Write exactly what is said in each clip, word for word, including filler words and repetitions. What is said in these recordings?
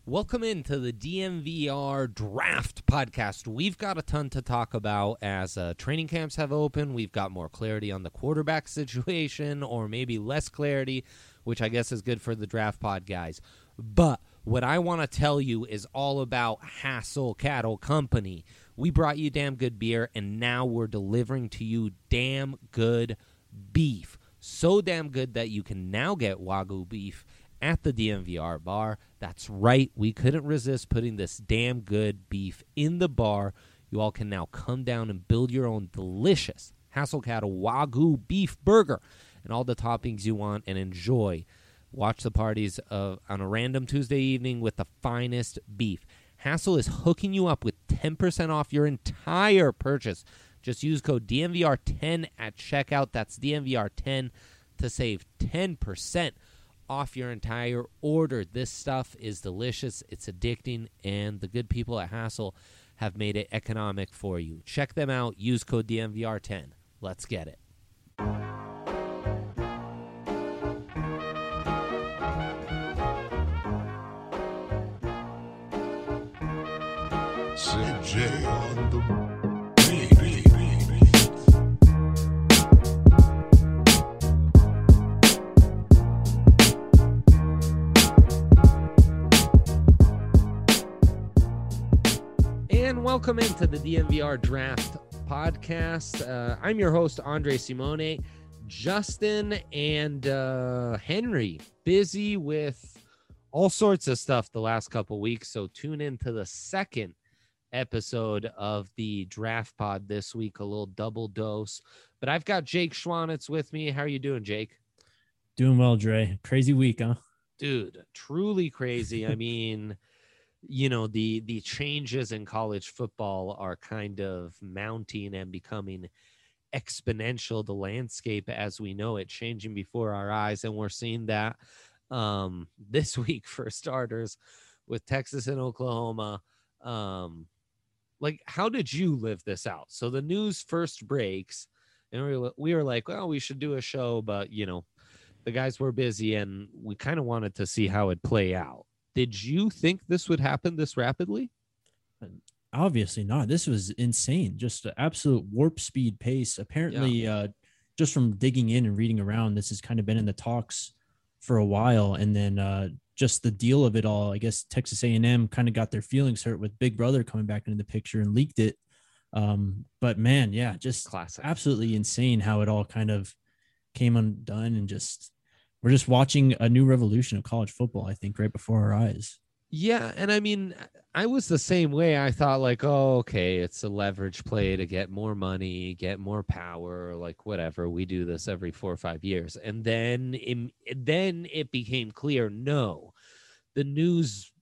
Welcome into the D M V R Draft Podcast. We've got a ton to talk about as uh, training camps have opened. We've got more clarity on the quarterback situation, or maybe less clarity, which I guess is good for the Draft Pod guys. But what I want to tell you is all about Hassel Cattle Company. We brought you damn good beer, and now we're delivering to you damn good beef. So damn good that you can now get Wagyu beef at the D M V R bar. That's right. We couldn't resist putting this damn good beef in the bar. You all can now come down and build your own delicious Hassel Cattle Wagyu beef burger and all the toppings you want and enjoy. Watch the parties of, on a random Tuesday evening with the finest beef. Hassel is hooking you up with ten percent off your entire purchase. Just use code D M V R ten at checkout. That's D M V R ten to save ten percent off your entire order. This stuff is delicious, it's addicting, and the good people at Hassel have made it economic for you. Check them out. Use code D M V R ten. Let's get it. C J on the And welcome into the D M V R Draft Podcast. Uh, I'm your host, Andre Simone. Justin and uh, Henry busy with all sorts of stuff the last couple weeks, so tune into the second episode of the Draft Pod this week, a little double dose. But I've got Jake Schwanitz with me. How are you doing, Jake? Doing well, Dre. Crazy week, huh? Dude, truly crazy. I mean... you know, the the changes in college football are kind of mounting and becoming exponential. The landscape as we know it changing before our eyes, and we're seeing that um this week for starters with Texas and Oklahoma. Um like, how did you live this out? So the news first breaks and we were, we were like, well, we should do a show, but you know, the guys were busy and we kind of wanted to see how it'd play out. Did you think this would happen this rapidly? Obviously not. This was insane. Just an absolute warp speed pace. Apparently, yeah. uh, just from digging in and reading around, this has kind of been in the talks for a while. And then uh, just the deal of it all, I guess Texas A and M kind of got their feelings hurt with Big Brother coming back into the picture and leaked it. Um, but man, yeah, just classic. Absolutely insane how it all kind of came undone, and just we're just watching a new revolution of college football, I think, right before our eyes. Yeah, and I mean, I was the same way. I thought like, oh, okay, it's a leverage play to get more money, get more power, like whatever. We do this every four or five years. And then, in, then it became clear, no, the news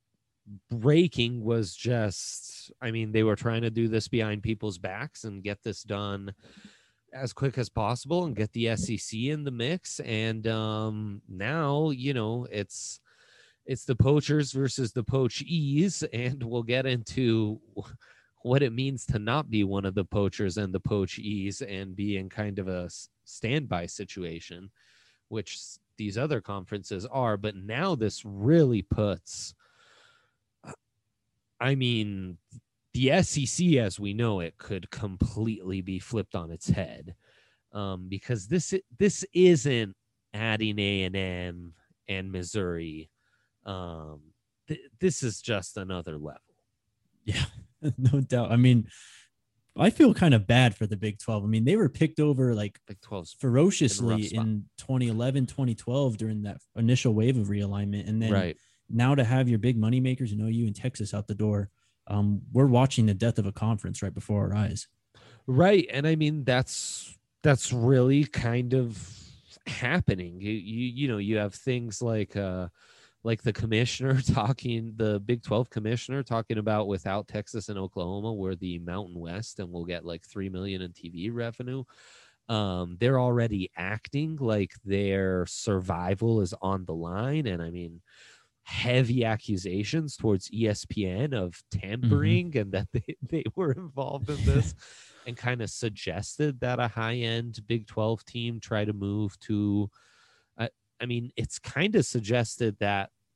breaking was just, I mean, they were trying to do this behind people's backs and get this done as quick as possible and get the S E C in the mix. And um, now, you know, it's it's the poachers versus the poachees, and we'll get into what it means to not be one of the poachers and the poachees and be in kind of a standby situation, which these other conferences are. But now this really puts, I mean, the S E C as we know it could completely be flipped on its head, um, because this this isn't adding A and M and Missouri. Um, th- this is just another level. Yeah, no doubt. I mean, I feel kind of bad for the Big twelve. I mean, they were picked over like Big twelve ferociously in, in twenty eleven, twenty twelve during that initial wave of realignment, and then right now to have your big money makers, you know, you and Texas out the door. Um, we're watching the death of a conference right before our eyes. Right. And I mean, that's, that's really kind of happening. You, you, you know, you have things like, uh, like the commissioner talking, the Big twelve commissioner talking about without Texas and Oklahoma, we're the Mountain West and we'll get like three million in T V revenue. Um, they're already acting like their survival is on the line. And I mean, heavy accusations towards E S P N of tampering mm-hmm. and that they, they were involved in this and kind of suggested that a high-end Big twelve team try to move to, uh, I mean, it's kind of suggested that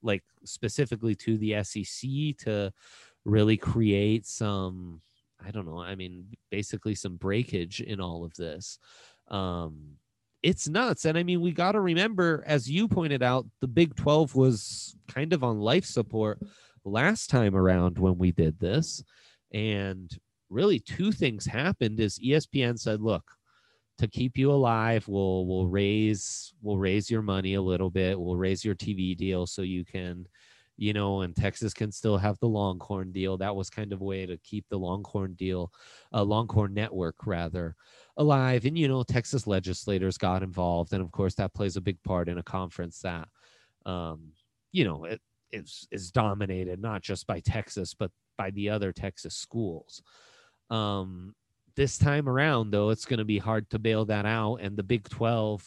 like specifically to the S E C to really create some, I don't know, I mean, basically some breakage in all of this. Um, it's nuts. And I mean, we got to remember, as you pointed out, the Big twelve was kind of on life support last time around when we did this. And really two things happened is E S P N said, look, to keep you alive, we'll we'll raise we'll raise your money a little bit. We'll raise your T V deal so you can, you know, and Texas can still have the Longhorn deal. That was kind of a way to keep the Longhorn deal, uh, Longhorn network rather, alive. And, you know, Texas legislators got involved. And of course, that plays a big part in a conference that, um, you know, it is, is dominated not just by Texas, but by the other Texas schools. Um, this time around, though, it's going to be hard to bail that out. And the Big twelve,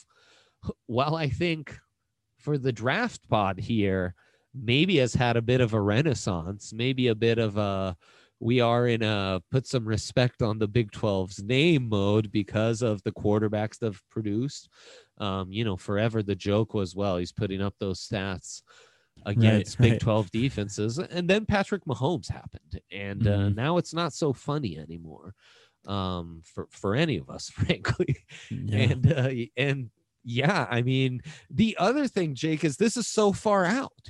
while I think for the draft pod here, maybe has had a bit of a renaissance, maybe a bit of a, we are in a put some respect on the Big twelve's name mode because of the quarterbacks they've produced. Um, you know, forever the joke was, well, he's putting up those stats against right, Big right. twelve defenses. And then Patrick Mahomes happened. And mm-hmm. uh, now it's not so funny anymore um, for, for any of us, frankly. Yeah. And, uh, and yeah, I mean, the other thing, Jake, is this is so far out.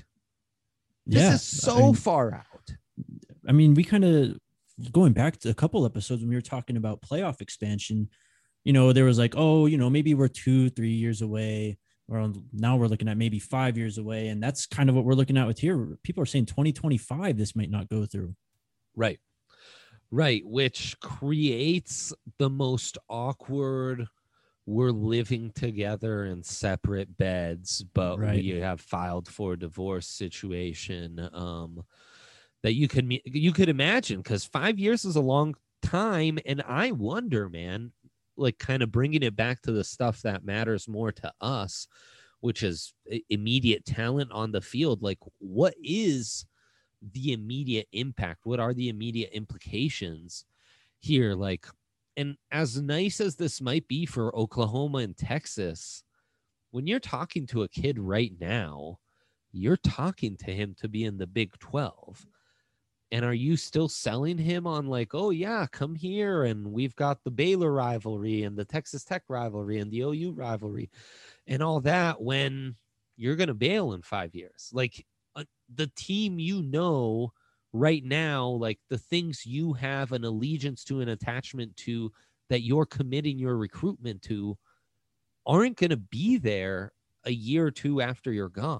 This yeah, is so I mean, far out. I mean, we kind of going back to a couple episodes when we were talking about playoff expansion, you know, there was like, oh, you know, maybe we're two, three years away, or now we're looking at maybe five years away. And that's kind of what we're looking at with here. People are saying twenty twenty-five, this might not go through. Right. Right. Which creates the most awkward, we're living together in separate beds, but right. we have filed for divorce situation um, that you can you could imagine, because five years is a long time. And I wonder, man, like kind of bringing it back to the stuff that matters more to us, which is immediate talent on the field. Like, what is the immediate impact? What are the immediate implications here? Like, and as nice as this might be for Oklahoma and Texas, when you're talking to a kid right now, you're talking to him to be in the Big twelve. And are you still selling him on like, oh, yeah, come here. And we've got the Baylor rivalry and the Texas Tech rivalry and the O U rivalry and all that, when you're going to bail in five years? Like uh, the team, you know, right now, like the things you have an allegiance to, an attachment to, that you're committing your recruitment to, aren't going to be there a year or two after you're gone.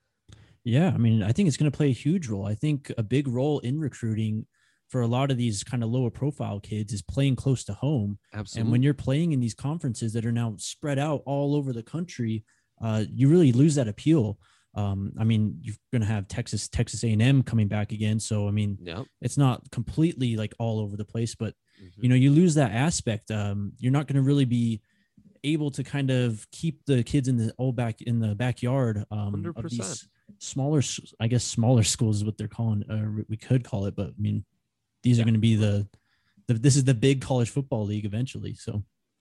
Yeah, I mean, I think it's going to play a huge role. I think a big role in recruiting for a lot of these kind of lower profile kids is playing close to home. Absolutely. And when you're playing in these conferences that are now spread out all over the country, uh, you really lose that appeal. Um, I mean, you're going to have Texas, Texas A and M coming back again. So, I mean, yep. it's not completely like all over the place, but, mm-hmm. you know, you lose that aspect. Um, you're not going to really be able to kind of keep the kids in the old back in the backyard um, of these smaller, I guess, smaller schools is what they're calling, uh, we could call it, but I mean, these yeah. are going to be the, the, this is the big college football league eventually. So,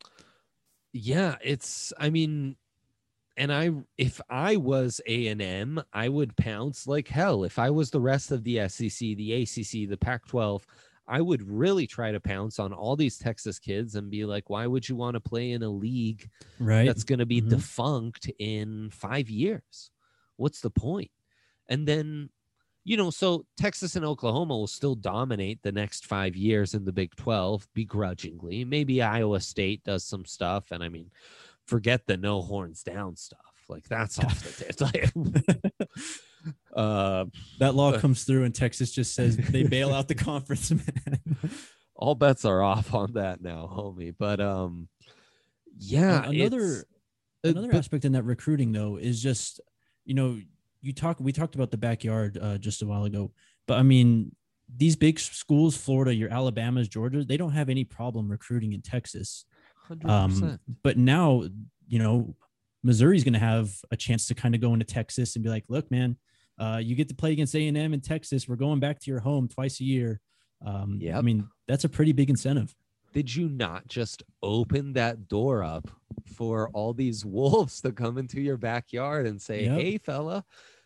yeah, it's, I mean, and I, if I was A and M, I would pounce like hell. If I was the rest of the S E C, the A C C, the Pac twelve, I would really try to pounce on all these Texas kids and be like, why would you want to play in a league right. that's going to be mm-hmm. defunct in five years? What's the point? And then, you know, so Texas and Oklahoma will still dominate the next five years in the Big twelve begrudgingly. Maybe Iowa State does some stuff. And I mean, forget the no horns down stuff. Like that's off the table. uh, that law uh, comes through and Texas just says they bail out the conference, man. All bets are off on that now, homie. But um, yeah, uh, another another but, aspect in that recruiting though is just, you know, you talk, we talked about the backyard uh, just a while ago, but I mean, these big schools, Florida, your Alabamas, Georgia, they don't have any problem recruiting in Texas. one hundred percent. Um, but now, you know, Missouri's going to have a chance to kind of go into Texas and be like, look, man, uh, you get to play against A and M in Texas. We're going back to your home twice a year. Um, yep. I mean, that's a pretty big incentive. Did you not just open that door up for all these wolves to come into your backyard and say, yep. hey, fella,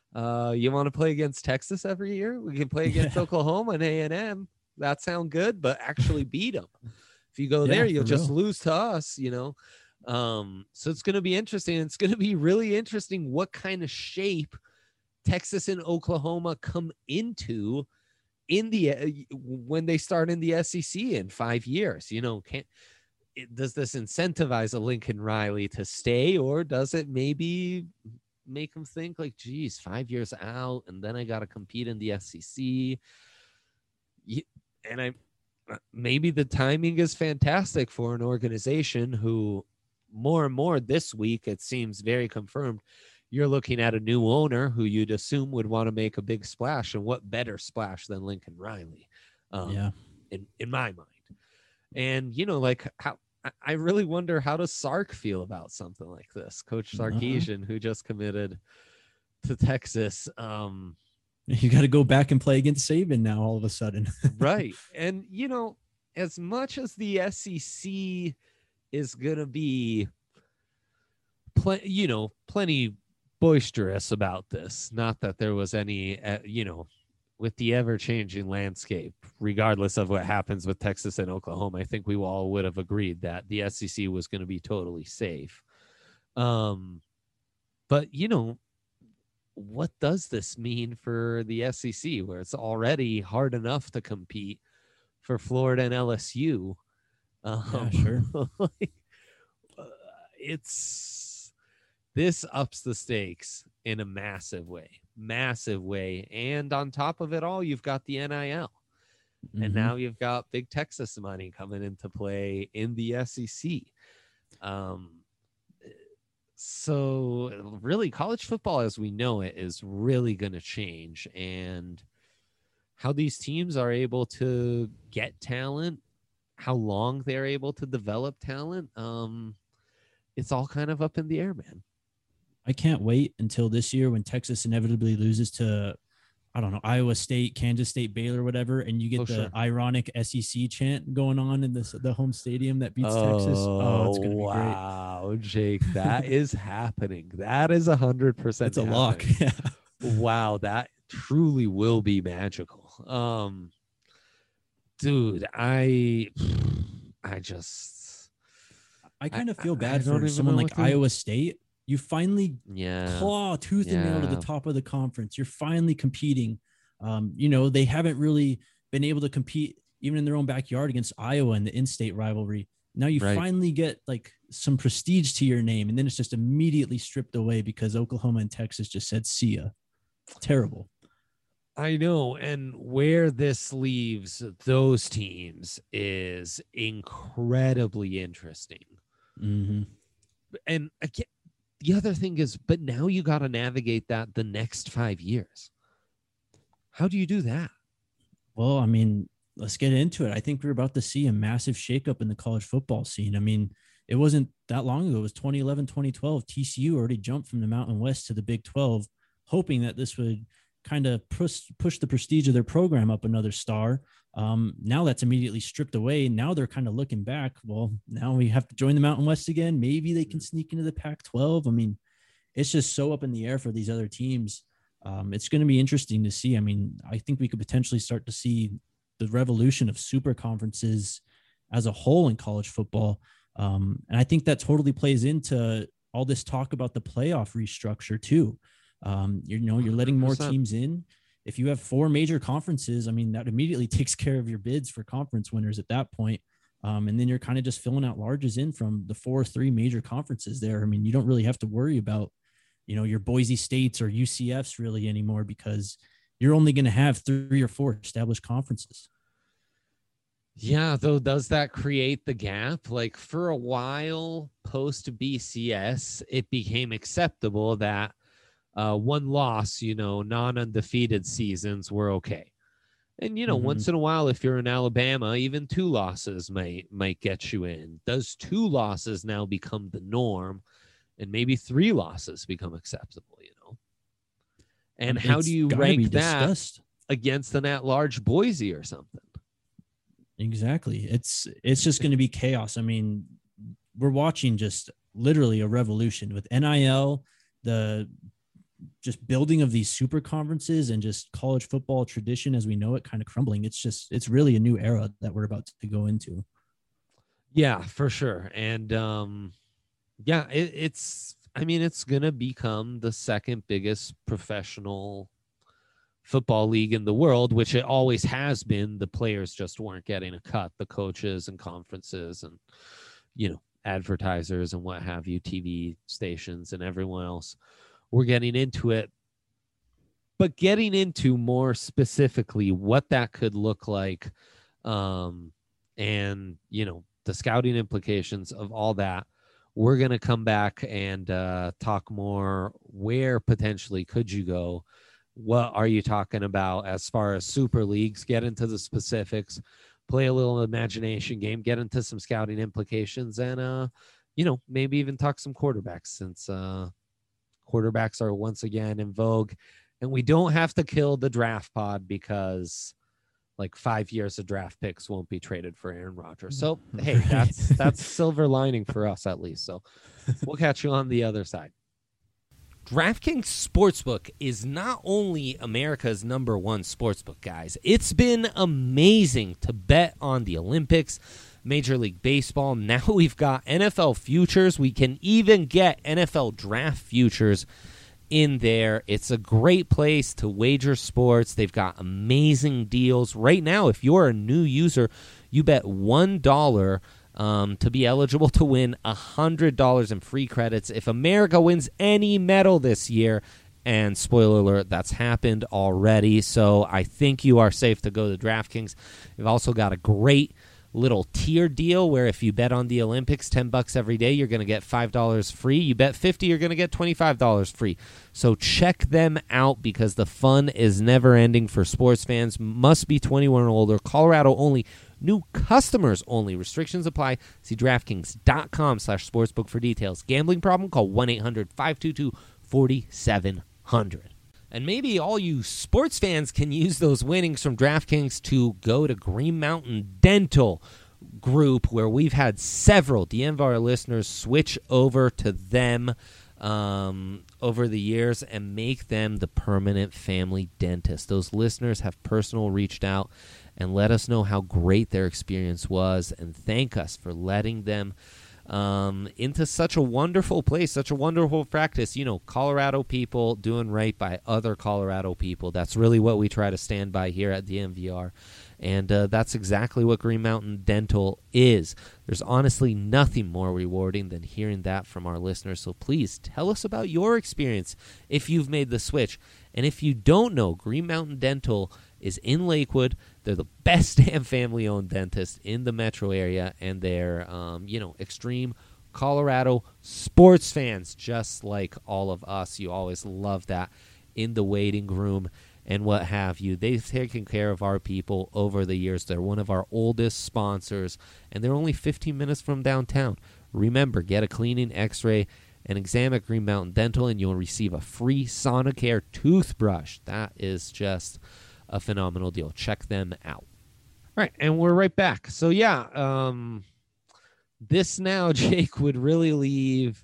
Uh, you want to play against Texas every year? We can play against Yeah. Oklahoma and A and M. That sound good, but actually beat them. If you go there, Yeah, you'll for just real. lose to us, you know? Um, so it's going to be interesting. It's going to be really interesting what kind of shape Texas and Oklahoma come into in the uh, when they start in the S E C in five years. You know, can't it, does this incentivize a Lincoln Riley to stay, or does it maybe make him think like, geez, five years out, and then I got to compete in the S E C? And I maybe the timing is fantastic for an organization who more and more this week, it seems very confirmed, you're looking at a new owner who you'd assume would want to make a big splash. And what better splash than Lincoln Riley, um, Yeah. in, in my mind. And, you know, like how I really wonder, how does Sark feel about something like this? Coach Sarkisian, uh-huh. who just committed to Texas. Um, you got to go back and play against Saban now all of a sudden. Right. And, you know, as much as the S E C is going to be, pl- you know, plenty boisterous about this, not that there was any, uh, you know, with the ever-changing landscape, regardless of what happens with Texas and Oklahoma, I think we all would have agreed that the S E C was going to be totally safe. Um, but, you know, what does this mean for the S E C, where it's already hard enough to compete for Florida and L S U? Um, yeah, sure. like, uh, it's this ups the stakes in a massive way, massive way. And on top of it all, you've got the N I L. Mm-hmm. And now you've got big Texas money coming into play in the S E C. Um, so really, college football as we know it is really going to change. And how these teams are able to get talent, how long they're able to develop talent, um, it's all kind of up in the air, man. I can't wait until this year when Texas inevitably loses to, I don't know, Iowa State, Kansas State, Baylor, whatever, and you get oh, the sure. ironic S E C chant going on in the the home stadium that beats oh, Texas. Oh, it's going to be wow, great. Wow, Jake, that is happening. That is a hundred percent. It's a lock. Yeah. Wow, that truly will be magical. Um, dude, I, I just, I kind of feel bad for someone like Iowa State. You finally yeah. claw tooth yeah. and nail to the top of the conference. You're finally competing. Um, you know, they haven't really been able to compete even in their own backyard against Iowa in the in-state rivalry. Now you right. finally get like some prestige to your name, and then it's just immediately stripped away because Oklahoma and Texas just said, see ya. Terrible. I know. And where this leaves those teams is incredibly interesting. Mm-hmm. And again, the other thing is, but now you got to navigate that the next five years. How do you do that? Well, I mean, let's get into it. I think we're about to see a massive shakeup in the college football scene. I mean, it wasn't that long ago. It was twenty eleven, twenty twelve. T C U already jumped from the Mountain West to the Big twelve, hoping that this would kind of push, push the prestige of their program up another star. Um, now that's immediately stripped away. Now they're kind of looking back. Well, now we have to join the Mountain West again. Maybe they can sneak into the Pac twelve. I mean, it's just so up in the air for these other teams. Um, it's going to be interesting to see. I mean, I think we could potentially start to see the revolution of super conferences as a whole in college football. Um, and I think that totally plays into all this talk about the playoff restructure too. Um, you know, you're letting more teams in. If you have four major conferences, I mean, that immediately takes care of your bids for conference winners at that point. Um, and then you're kind of just filling out larges in from the four or three major conferences there. I mean, you don't really have to worry about, you know, your Boise States or U C Fs really anymore, because you're only going to have three or four established conferences. Yeah, though, does that create the gap? Like for a while post B C S, it became acceptable that Uh, one loss, you know, non-undefeated seasons were okay. And, you know, mm-hmm. once in a while, if you're in Alabama, even two losses might might get you in. Does two losses now become the norm, and maybe three losses become acceptable, you know? And it's how do you rank that against an at-large Boise or something? Exactly. It's it's just going to be chaos. I mean, we're watching just literally a revolution with N I L, the just building of these super conferences and just college football tradition as we know it kind of crumbling. It's just, it's really a new era that we're about to go into. Yeah, for sure. And um, yeah, it, it's, I mean, it's going to become the second biggest professional football league in the world, which it always has been. The players just weren't getting a cut, the coaches and conferences and, you know, advertisers and what have you, T V stations and everyone else were getting into it. But getting into more specifically what that could look like, um, and, you know, the scouting implications of all that, we're going to come back and uh, talk more. Where potentially could you go? What are you talking about as far as super leagues? Get into the specifics, play a little imagination game, get into some scouting implications, and, uh, you know, maybe even talk some quarterbacks, since uh, quarterbacks are once again in vogue. And we don't have to kill the draft pod because like five years of draft picks won't be traded for Aaron Rodgers. So, hey, that's that's silver lining for us at least. So we'll catch you on the other side. DraftKings Sportsbook is not only America's number one sportsbook, guys. It's been amazing to bet on the Olympics, Major League Baseball. Now we've got N F L futures. We can even get N F L draft futures in there. It's a great place to wager sports. They've got amazing deals. Right now, if you're a new user, you bet one dollar um, to be eligible to win one hundred dollars in free credits if America wins any medal this year. And spoiler alert, that's happened already. So I think you are safe to go to DraftKings. They've also got a great little tier deal where if you bet on the Olympics ten bucks every day, you're going to get five dollars free. You bet fifty, you're going to get twenty-five dollars free. So check them out because the fun is never ending for sports fans. Must be twenty-one or older. Colorado only. New customers only. Restrictions apply. See DraftKings.com slash sportsbook for details. Gambling problem? Call one eight hundred five two two four seven zero zero. And maybe all you sports fans can use those winnings from DraftKings to go to Green Mountain Dental Group, where we've had several D M V R listeners switch over to them um, over the years and make them the permanent family dentist. Those listeners have personal reached out and let us know how great their experience was and thank us for letting them Um, into such a wonderful place, such a wonderful practice. You know, Colorado people doing right by other Colorado people. That's really what we try to stand by here at D M V R. And uh, that's exactly what Green Mountain Dental is. There's honestly nothing more rewarding than hearing that from our listeners. So please tell us about your experience if you've made the switch. And if you don't know, Green Mountain Dental is in Lakewood. They're the best damn family-owned dentist in the metro area, and they're, um, you know, extreme Colorado sports fans, just like all of us. You always love that in the waiting room and what have you. They've taken care of our people over the years. They're one of our oldest sponsors, and they're only fifteen minutes from downtown. Remember, get a cleaning, x-ray, and exam at Green Mountain Dental, and you'll receive a free Sonicare toothbrush. That is just a phenomenal deal. Check them out. All right, and we're right back. So, yeah, um, this now, Jake, would really leave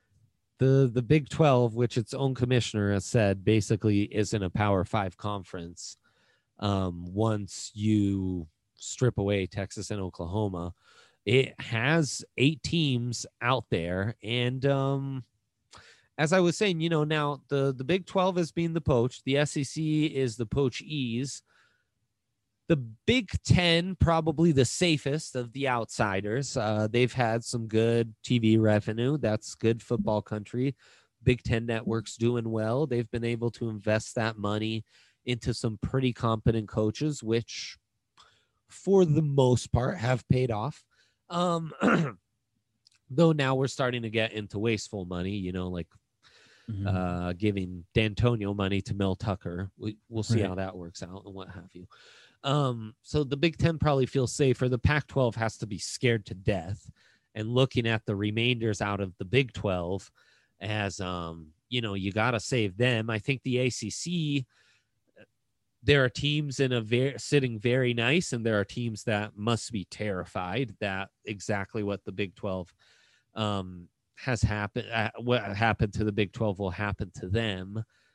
the the Big twelve, which its own commissioner has said basically isn't a Power Five conference um, once you strip away Texas and Oklahoma. It has eight teams out there, and um, as I was saying, you know, now the, the Big twelve is being the poach. The S E C is the poachees. The Big Ten, probably the safest of the outsiders. Uh, they've had some good T V revenue. That's good football country. Big Ten network's doing well. They've been able to invest that money into some pretty competent coaches, which for the most part have paid off. Um, though now we're starting to get into wasteful money, you know, like Mm-hmm. uh, giving D'Antonio money to Mel Tucker. We, we'll see right. how that works out and what have you. Um, so the Big Ten probably feels safer. The Pac twelve has to be scared to death. And looking at the remainders out of the Big twelve as, um, you know, you got to save them. I think the A C C, there are teams in a very sitting very nice, and there are teams that must be terrified that exactly what the Big twelve um has happened. Uh, what happened to the Big twelve will happen to them.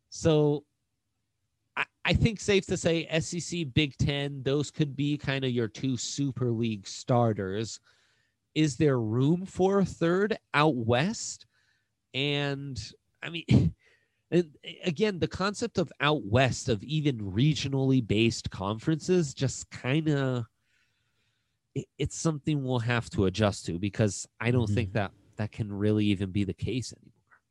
So I, I think safe to say S E C, Big Ten, those could be kind of your two Super League starters. Is there room for a third out west? And I mean, and again, the concept of out west of even regionally based conferences just kind of, it, it's something we'll have to adjust to, because I don't mm-hmm. think that that can really even be the case anymore.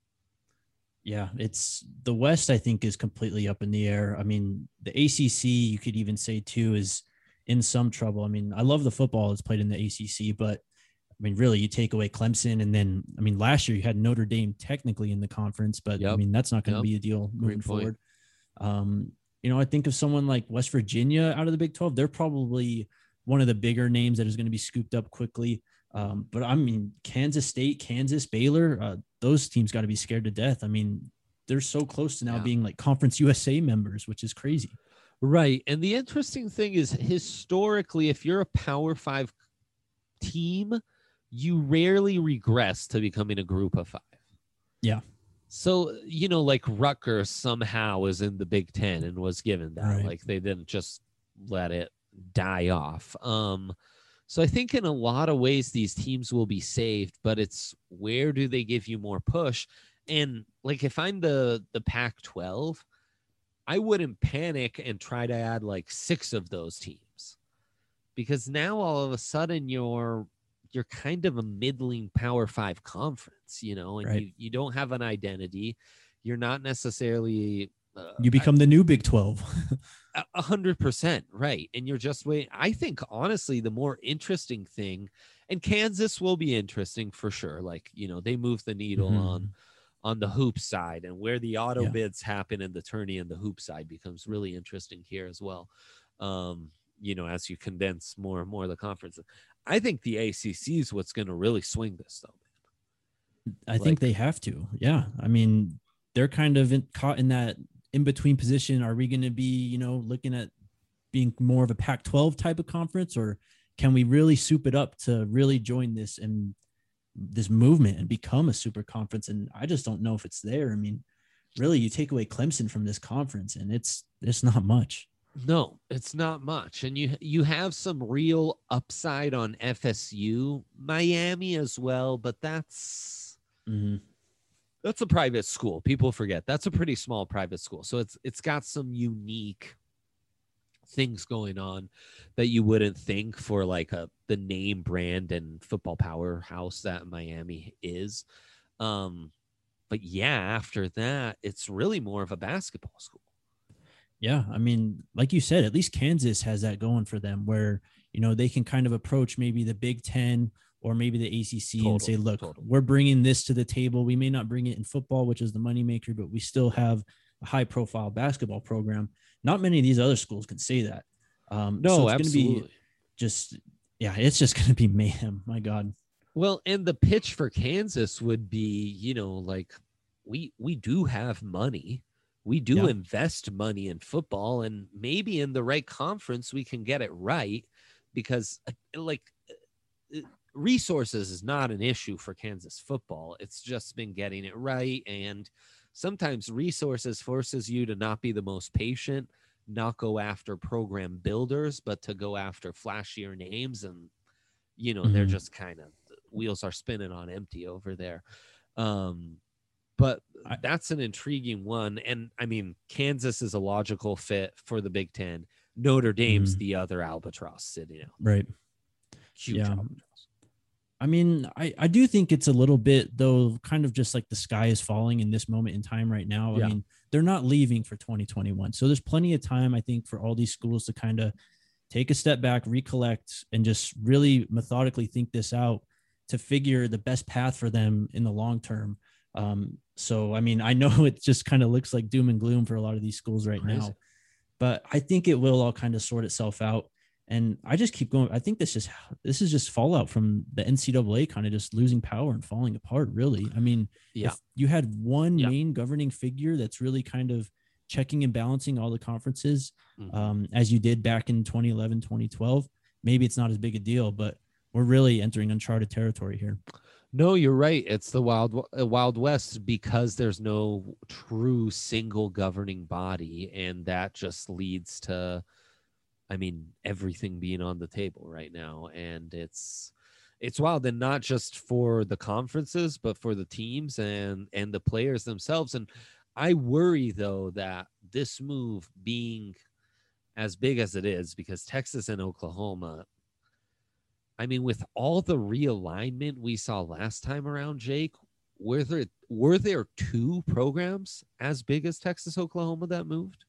Yeah, it's the West, I think, is completely up in the air. I mean, the A C C, you could even say too, is in some trouble. I mean, I love the football that's played in the A C C, but I mean, really, you take away Clemson, and then, I mean, last year you had Notre Dame technically in the conference, but yep. I mean, that's not going to yep. be a deal moving forward. Um, you know, I think of someone like West Virginia out of the Big twelve, they're probably one of the bigger names that is going to be scooped up quickly. Um, but I mean, Kansas State, Kansas, Baylor, uh, those teams got to be scared to death. I mean, they're so close to now yeah. being like Conference U S A members, which is crazy. Right. And the interesting thing is, historically, if you're a Power Five team, you rarely regress to becoming a group of five. Yeah. So, you know, like Rutgers somehow is in the Big Ten and was given that. Right. Like they didn't just let it die off. Um, so I think in a lot of ways these teams will be saved, but it's where do they give you more push? And like if I'm the the Pac twelve, I wouldn't panic and try to add like six of those teams, because now all of a sudden you're you're kind of a middling Power Five conference, you know, and right. you, you don't have an identity. You're not necessarily uh, you become I, the new Big twelve. A hundred percent right. And you're just waiting. I think honestly, the more interesting thing, and Kansas will be interesting for sure. Like, you know, they move the needle mm-hmm. on on the hoop side, and where the auto yeah. bids happen in the tourney and the hoop side becomes really interesting here as well. Um, you know, as you condense more and more of the conference. I think the A C C is what's going to really swing this, though, man. I like, think they have to. Yeah. I mean, they're kind of in, caught in that in-between position. Are we going to be, you know, looking at being more of a Pac twelve type of conference, or can we really soup it up to really join this and this movement and become a super conference? And I just don't know if it's there. I mean, really, you take away Clemson from this conference and it's, it's not much. No, it's not much. And you you have some real upside on F S U, Miami as well, but that's mm-hmm. that's a private school. People forget that's a pretty small private school. So it's it's got some unique things going on that you wouldn't think for like a the name brand and football powerhouse that Miami is. Um, but yeah, after that, it's really more of a basketball school. Yeah, I mean, like you said, at least Kansas has that going for them where, you know, they can kind of approach maybe the Big Ten or maybe the A C C total, and say, look, total. we're bringing this to the table. We may not bring it in football, which is the moneymaker, but we still have a high profile basketball program. Not many of these other schools can say that. Um, no, so it's absolutely. Gonna be just, yeah, it's just going to be mayhem. My God. Well, and the pitch for Kansas would be, you know, like we, we do have money. We do yeah. invest money in football, and maybe in the right conference, we can get it right, because like resources is not an issue for Kansas football. It's just been getting it right. And sometimes resources forces you to not be the most patient, not go after program builders, but to go after flashier names. And, you know, mm-hmm. they're just kind of wheels are spinning on empty over there. Um, But that's an intriguing one. And I mean, Kansas is a logical fit for the Big Ten. Notre Dame's mm-hmm. the other albatross sitting out. Right. Huge yeah. albatross. I mean, I, I do think it's a little bit, though, kind of just like the sky is falling in this moment in time right now. Yeah. I mean, they're not leaving for twenty twenty-one. So there's plenty of time, I think, for all these schools to kind of take a step back, recollect, and just really methodically think this out to figure the best path for them in the long term. Um, so, I mean, I know it just kind of looks like doom and gloom for a lot of these schools right Crazy. now, but I think it will all kind of sort itself out. And I just keep going. I think this is, this is just fallout from the N C double A kind of just losing power and falling apart, really. I mean, yeah. if you had one yeah. main governing figure that's really kind of checking and balancing all the conferences, mm-hmm. um, as you did back in twenty eleven, twenty twelve, maybe it's not as big a deal, but we're really entering uncharted territory here. No, you're right. It's the wild uh, wild west because there's no true single governing body, and that just leads to, I mean, everything being on the table right now, and it's it's wild, and not just for the conferences, but for the teams and and the players themselves. And I worry though that this move being as big as it is, because Texas and Oklahoma, I mean, with all the realignment we saw last time around, Jake, were there were there two programs as big as Texas, Oklahoma that moved?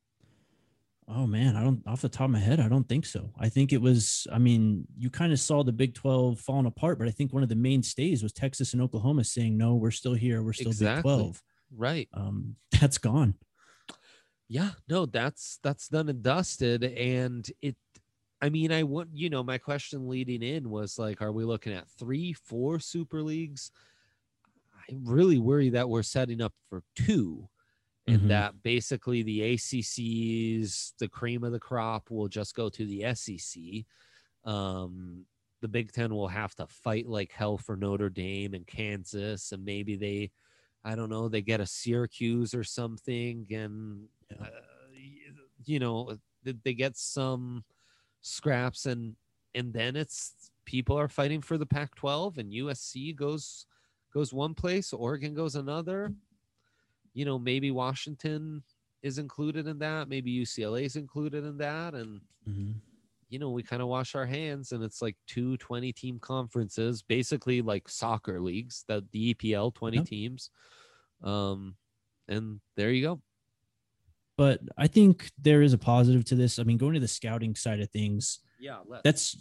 Oh man, I don't off the top of my head, I don't think so. I think it was, I mean, you kind of saw the Big twelve falling apart, but I think one of the mainstays was Texas and Oklahoma saying, no, we're still here. We're still Exactly. Big twelve. Right. Um, that's gone. Yeah, no, that's that's done and dusted. And it, I mean, I want, you know, my question leading in was like, are we looking at three, four super leagues? I really worry that we're setting up for two, and Mhm. that basically the A C C's, the cream of the crop, will just go to the S E C. Um, the Big Ten will have to fight like hell for Notre Dame and Kansas, and maybe they, I don't know, they get a Syracuse or something, and Yeah. uh, you know, they get some scraps, and and then it's people are fighting for the Pac twelve, and U S C goes goes one place, Oregon goes another. You know, maybe Washington is included in that, maybe U C L A is included in that, and Mhm. you know, we kind of wash our hands, and it's like two twenty team conferences, basically like soccer leagues, that the E P L, twenty Yep. teams. Um, and there you go. But I think there is a positive to this. I mean, going to the scouting side of things, Yeah, let's. that's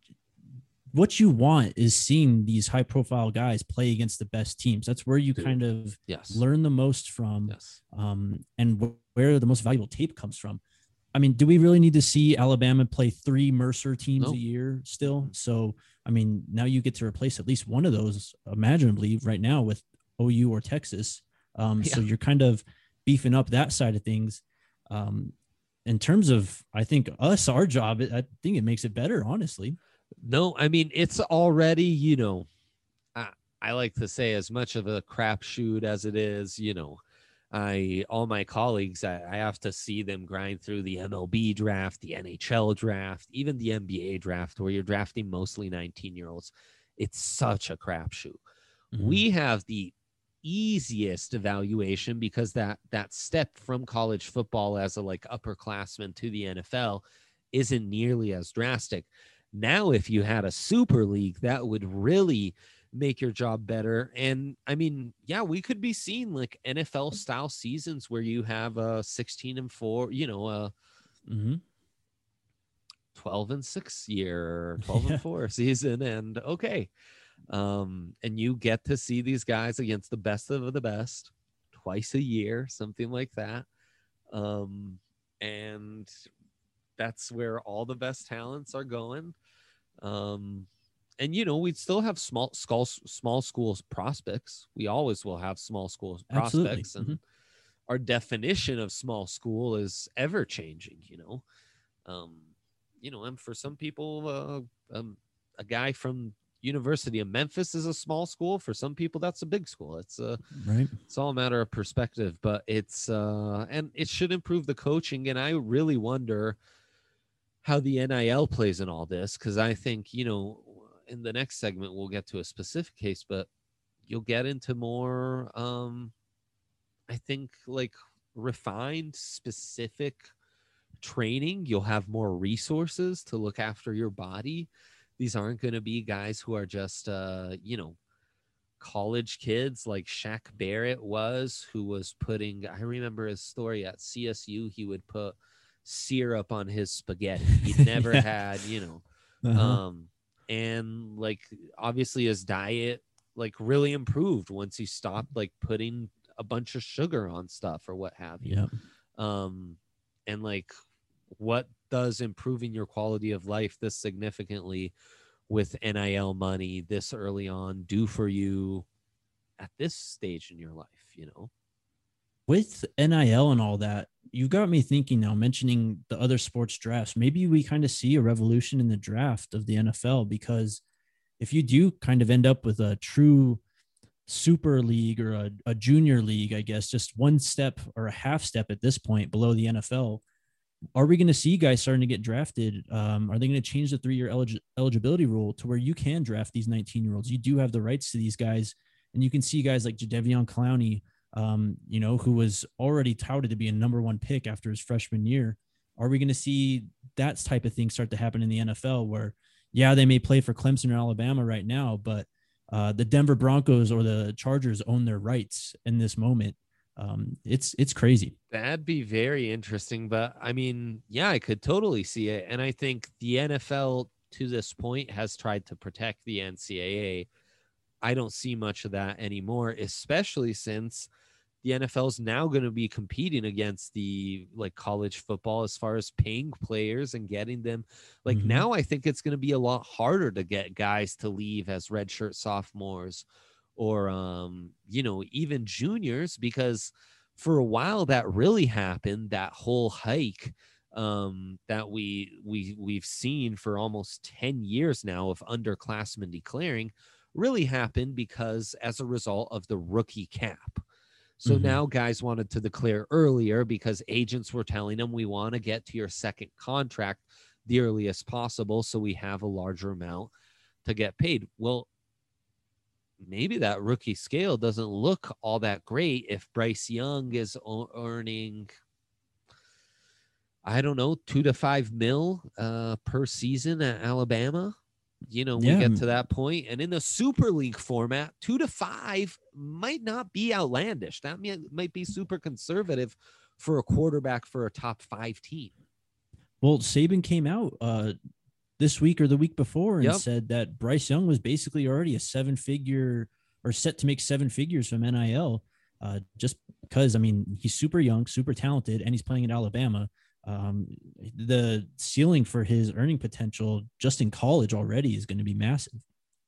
what you want, is seeing these high profile guys play against the best teams. That's where you Dude. kind of Yes. learn the most from, Yes. um, and wh- where the most valuable tape comes from. I mean, do we really need to see Alabama play three Mercer teams Nope. a year still? Mhm. So, I mean, now you get to replace at least one of those, imaginably, right now with O U or Texas. Um, So Yeah. you're kind of beefing up that side of things. Um, in terms of, I think us, our job, I think it makes it better, honestly. No, I mean, it's already, you know, I, I like to say, as much of a crapshoot as it is, you know, I, all my colleagues, I, I have to see them grind through the M L B draft, the N H L draft, even the N B A draft, where you're drafting mostly nineteen year olds. It's such a crapshoot. Mhm. We have the easiest evaluation because that that step from college football as a like upperclassman to the N F L isn't nearly as drastic. Now, if you had a super league, that would really make your job better. And I mean, yeah, we could be seeing like N F L style seasons where you have a sixteen and four, you know, a Mhm. twelve and six year, twelve Yeah. and four season. And okay. Um, and you get to see these guys against the best of the best twice a year, something like that. Um, and that's where all the best talents are going. Um, and you know, we'd still have small small small schools prospects. We always will have small schools Absolutely. prospects, and Mhm. our definition of small school is ever changing. You know, um, you know, and for some people, uh, um, a guy from University of Memphis is a small school. For some people, that's a big school. It's a Right. it's all a matter of perspective, but it's uh, and it should improve the coaching. And I really wonder how the N I L plays in all this, because I think, you know, in the next segment we'll get to a specific case, but you'll get into more um I think like refined specific training. You'll have more resources to look after your body. These aren't going to be guys who are just uh you know, college kids like Shaq Barrett was, who was putting, I remember his story at C S U, he would put syrup on his spaghetti. He never Yeah. had, you know, Uh-huh. um, and like obviously his diet like really improved once he stopped like putting a bunch of sugar on stuff or what have you. Yep. Um, and like, what does improving your quality of life this significantly with N I L money this early on do for you at this stage in your life, you know? With N I L and all that, you got me thinking now, mentioning the other sports drafts. Maybe we kind of see a revolution in the draft of the N F L, because if you do kind of end up with a true super league or a, a junior league, I guess, just one step or a half step at this point below the N F L, are we going to see guys starting to get drafted? Um, are they going to change the three-year elig- eligibility rule to where you can draft these nineteen-year-olds? You do have the rights to these guys, and you can see guys like Jadeveon Clowney, um, you know, who was already touted to be a number one pick after his freshman year. Are we going to see that type of thing start to happen in the N F L where, yeah, they may play for Clemson or Alabama right now, but uh, the Denver Broncos or the Chargers own their rights in this moment? Um, it's it's crazy. That'd be very interesting, but I mean, yeah, I could totally see it. And I think the N F L to this point has tried to protect the N C double A. I don't see much of that anymore, especially since the N F L is now going to be competing against the like college football as far as paying players and getting them. Like mm-hmm. now I think it's going to be a lot harder to get guys to leave as redshirt sophomores or, um, you know, even juniors, because for a while that really happened, that whole hike um, that we, we, we've seen for almost ten years now of underclassmen declaring really happened because as a result of the rookie cap. So mm-hmm. now guys wanted to declare earlier because agents were telling them, we want to get to your second contract the earliest possible so we have a larger amount to get paid. Well, maybe that rookie scale doesn't look all that great if Bryce Young is earning, I don't know, two to five mil uh, per season at Alabama. You know, we yeah. get to that point, and in the Super League format, two to five might not be outlandish. That might, might be super conservative for a quarterback for a top five team. Well, Saban came out uh, this week or the week before and yep. said that Bryce Young was basically already a seven-figure or set to make seven figures from N I L, uh, just because, I mean, he's super young, super talented, and he's playing at Alabama. Um, the ceiling for his earning potential just in college already is going to be massive.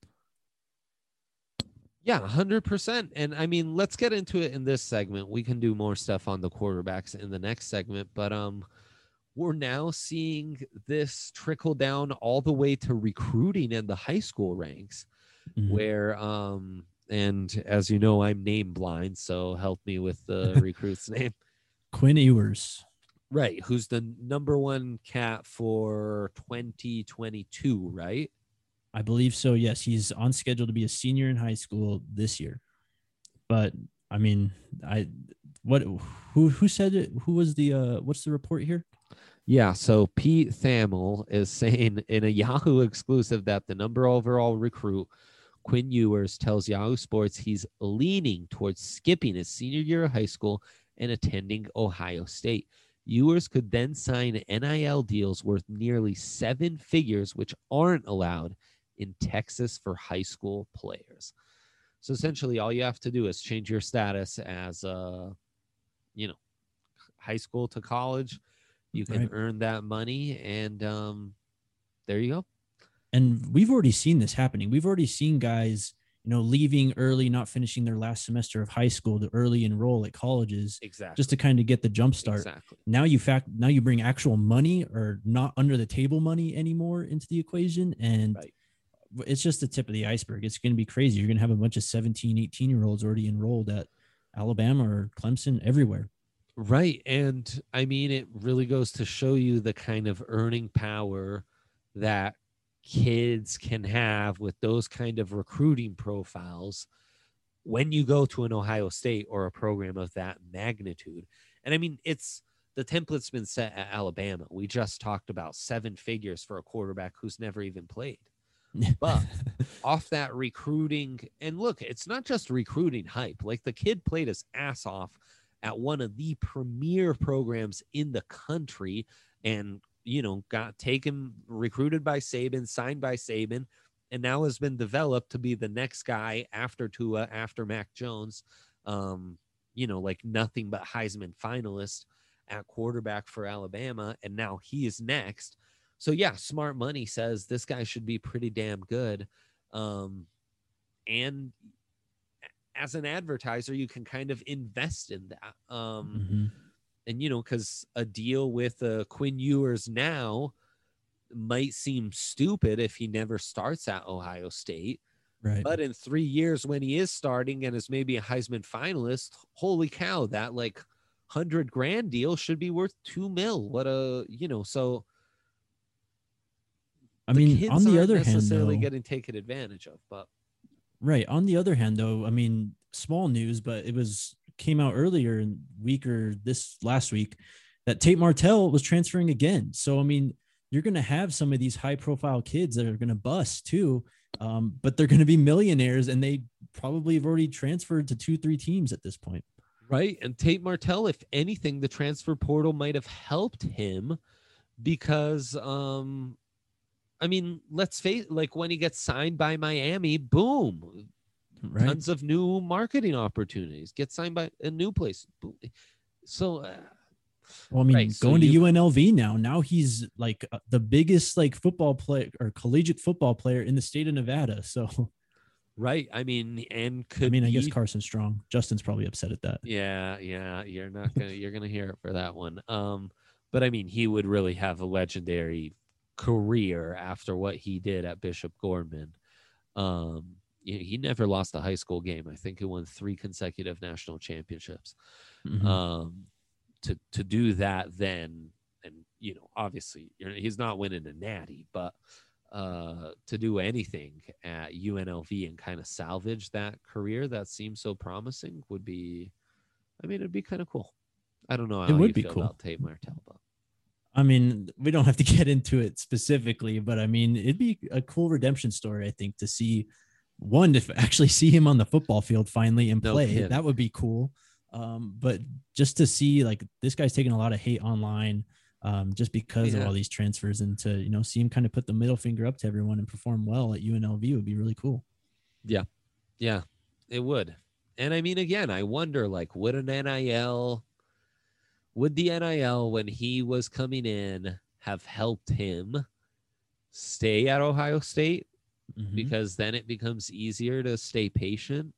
Yeah, one hundred percent. And I mean, let's get into it in this segment. We can do more stuff on the quarterbacks in the next segment, but um, we're now seeing this trickle down all the way to recruiting in the high school ranks mm-hmm. where, um, and as you know, I'm name blind, so help me with the recruit's name. Quinn Ewers. Right, who's the number one cat for twenty twenty-two, right? I believe so, yes. He's on schedule to be a senior in high school this year. But, I mean, I what who who said it? Who was the, uh, what's the report here? Yeah, so Pete Thamel is saying in a Yahoo exclusive that the number overall recruit, Quinn Ewers, tells Yahoo Sports he's leaning towards skipping his senior year of high school and attending Ohio State. Ewers could then sign N I L deals worth nearly seven figures, which aren't allowed in Texas for high school players. So essentially, all you have to do is change your status as, uh, you know, high school to college. You can right. earn that money, and um, there you go. And we've already seen this happening. We've already seen guys, you know, leaving early, not finishing their last semester of high school to early enroll at colleges, exactly, just to kind of get the jump start. Exactly. Now you fact now you bring actual money or not under the table money anymore into the equation, and right. it's just the tip of the iceberg. It's going to be crazy. You're going to have a bunch of seventeen, eighteen year olds already enrolled at Alabama or Clemson, everywhere. Right, and I mean, it really goes to show you the kind of earning power that kids can have with those kind of recruiting profiles when you go to an Ohio State or a program of that magnitude. And I mean, it's the template's been set at Alabama. We just talked about seven figures for a quarterback who's never even played. But off that recruiting, and look, it's not just recruiting hype. Like, the kid played his ass off at one of the premier programs in the country and, you know, got taken, recruited by Saban, signed by Saban, and now has been developed to be the next guy after Tua, after Mac Jones, um, you know, like nothing but Heisman finalist at quarterback for Alabama. And now he is next. So yeah, smart money says this guy should be pretty damn good. Um, and as an advertiser, you can kind of invest in that. Um, mm-hmm. And, you know, because a deal with uh, Quinn Ewers now, might seem stupid if he never starts at Ohio State. Right. But in three years, when he is starting and is maybe a Heisman finalist, holy cow, that like hundred grand deal should be worth two mil. What a, you know, so I the mean, kids on the aren't other hand, necessarily though, getting taken advantage of, but right. On the other hand, though, I mean, small news, but it was came out earlier in week or this last week that Tate Martell was transferring again. So, I mean, you're going to have some of these high profile kids that are going to bust too. Um, but they're going to be millionaires, and they probably have already transferred to two, three teams at this point. Right. And Tate Martell, if anything, the transfer portal might have helped him because, um, I mean, let's face it, like when he gets signed by Miami, boom, right. Tons of new marketing opportunities. Get signed by a new place. So, uh, well, I mean, right, so going to you, U N L V now, now he's like uh, the biggest like football player or collegiate football player in the state of Nevada. So, right. I mean, and could I mean, I be, guess Carson Strong, Justin's probably upset at that. Yeah. Yeah. You're not going to, you're going to hear it for that one. Um, but I mean, he would really have a legendary career after what he did at Bishop Gorman. Um, he never lost a high school game. I think he won three consecutive national championships. Mm-hmm. Um, to to do that then, and you know, obviously he's not winning a natty, but uh, to do anything at U N L V and kind of salvage that career that seems so promising would be, I mean, it'd be kind of cool. I don't know how it would you be feel cool about Tate Martell, but I mean, we don't have to get into it specifically, but I mean, it'd be a cool redemption story, I think, to see one, to actually see him on the football field finally and No play. kidding. That would be cool. Um, but just to see, like, this guy's taking a lot of hate online um, just because Yeah. of all these transfers, and to, you know, see him kind of put the middle finger up to everyone and perform well at U N L V would be really cool. Yeah. Yeah, it would. And I mean, again, I wonder, like, would an N I L, would the N I L, when he was coming in, have helped him stay at Ohio State? Mm-hmm. Because then it becomes easier to stay patient.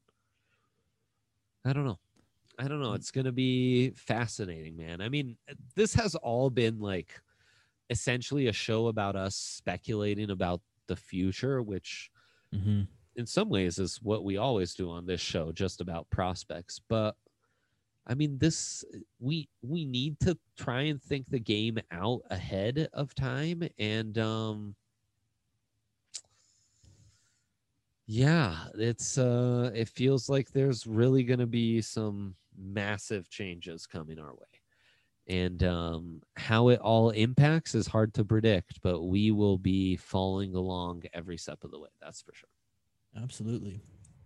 I don't know. I don't know. It's going to be fascinating, man. I mean, this has all been like essentially a show about us speculating about the future, which Mm-hmm. in some ways is what we always do on this show, just about prospects. But I mean, this, we, we need to try and think the game out ahead of time. And, um, yeah, it's, uh, it feels like there's really going to be some massive changes coming our way. And, um, how it all impacts is hard to predict, but we will be following along every step of the way. That's for sure. Absolutely.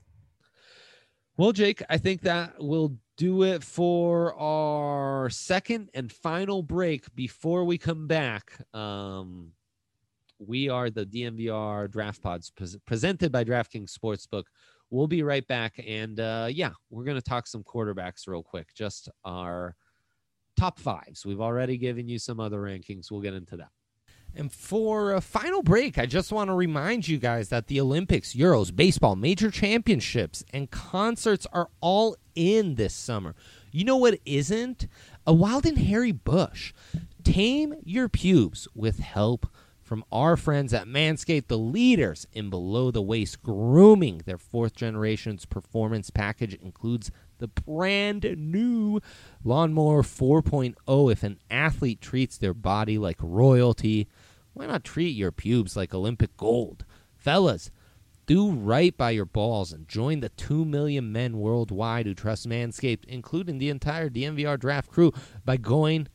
Well, Jake, I think that will do it for our second and final break. Before we come back, um, we are the D M V R Draft Pods pre- presented by DraftKings Sportsbook. We'll be right back. And uh, yeah, we're going to talk some quarterbacks real quick, just our top fives. We've already given you some other rankings. We'll get into that. And for a final break, I just want to remind you guys that the Olympics, Euros, baseball, major championships, and concerts are all in this summer. You know what isn't? A wild and hairy bush. Tame your pubes with help from our friends at Manscaped, the leaders in below-the-waist grooming. Their fourth generation's performance package includes the brand new Lawnmower four point oh. If an athlete treats their body like royalty, why not treat your pubes like Olympic gold? Fellas, do right by your balls and join the two million men worldwide who trust Manscaped, including the entire D M V R draft crew, by going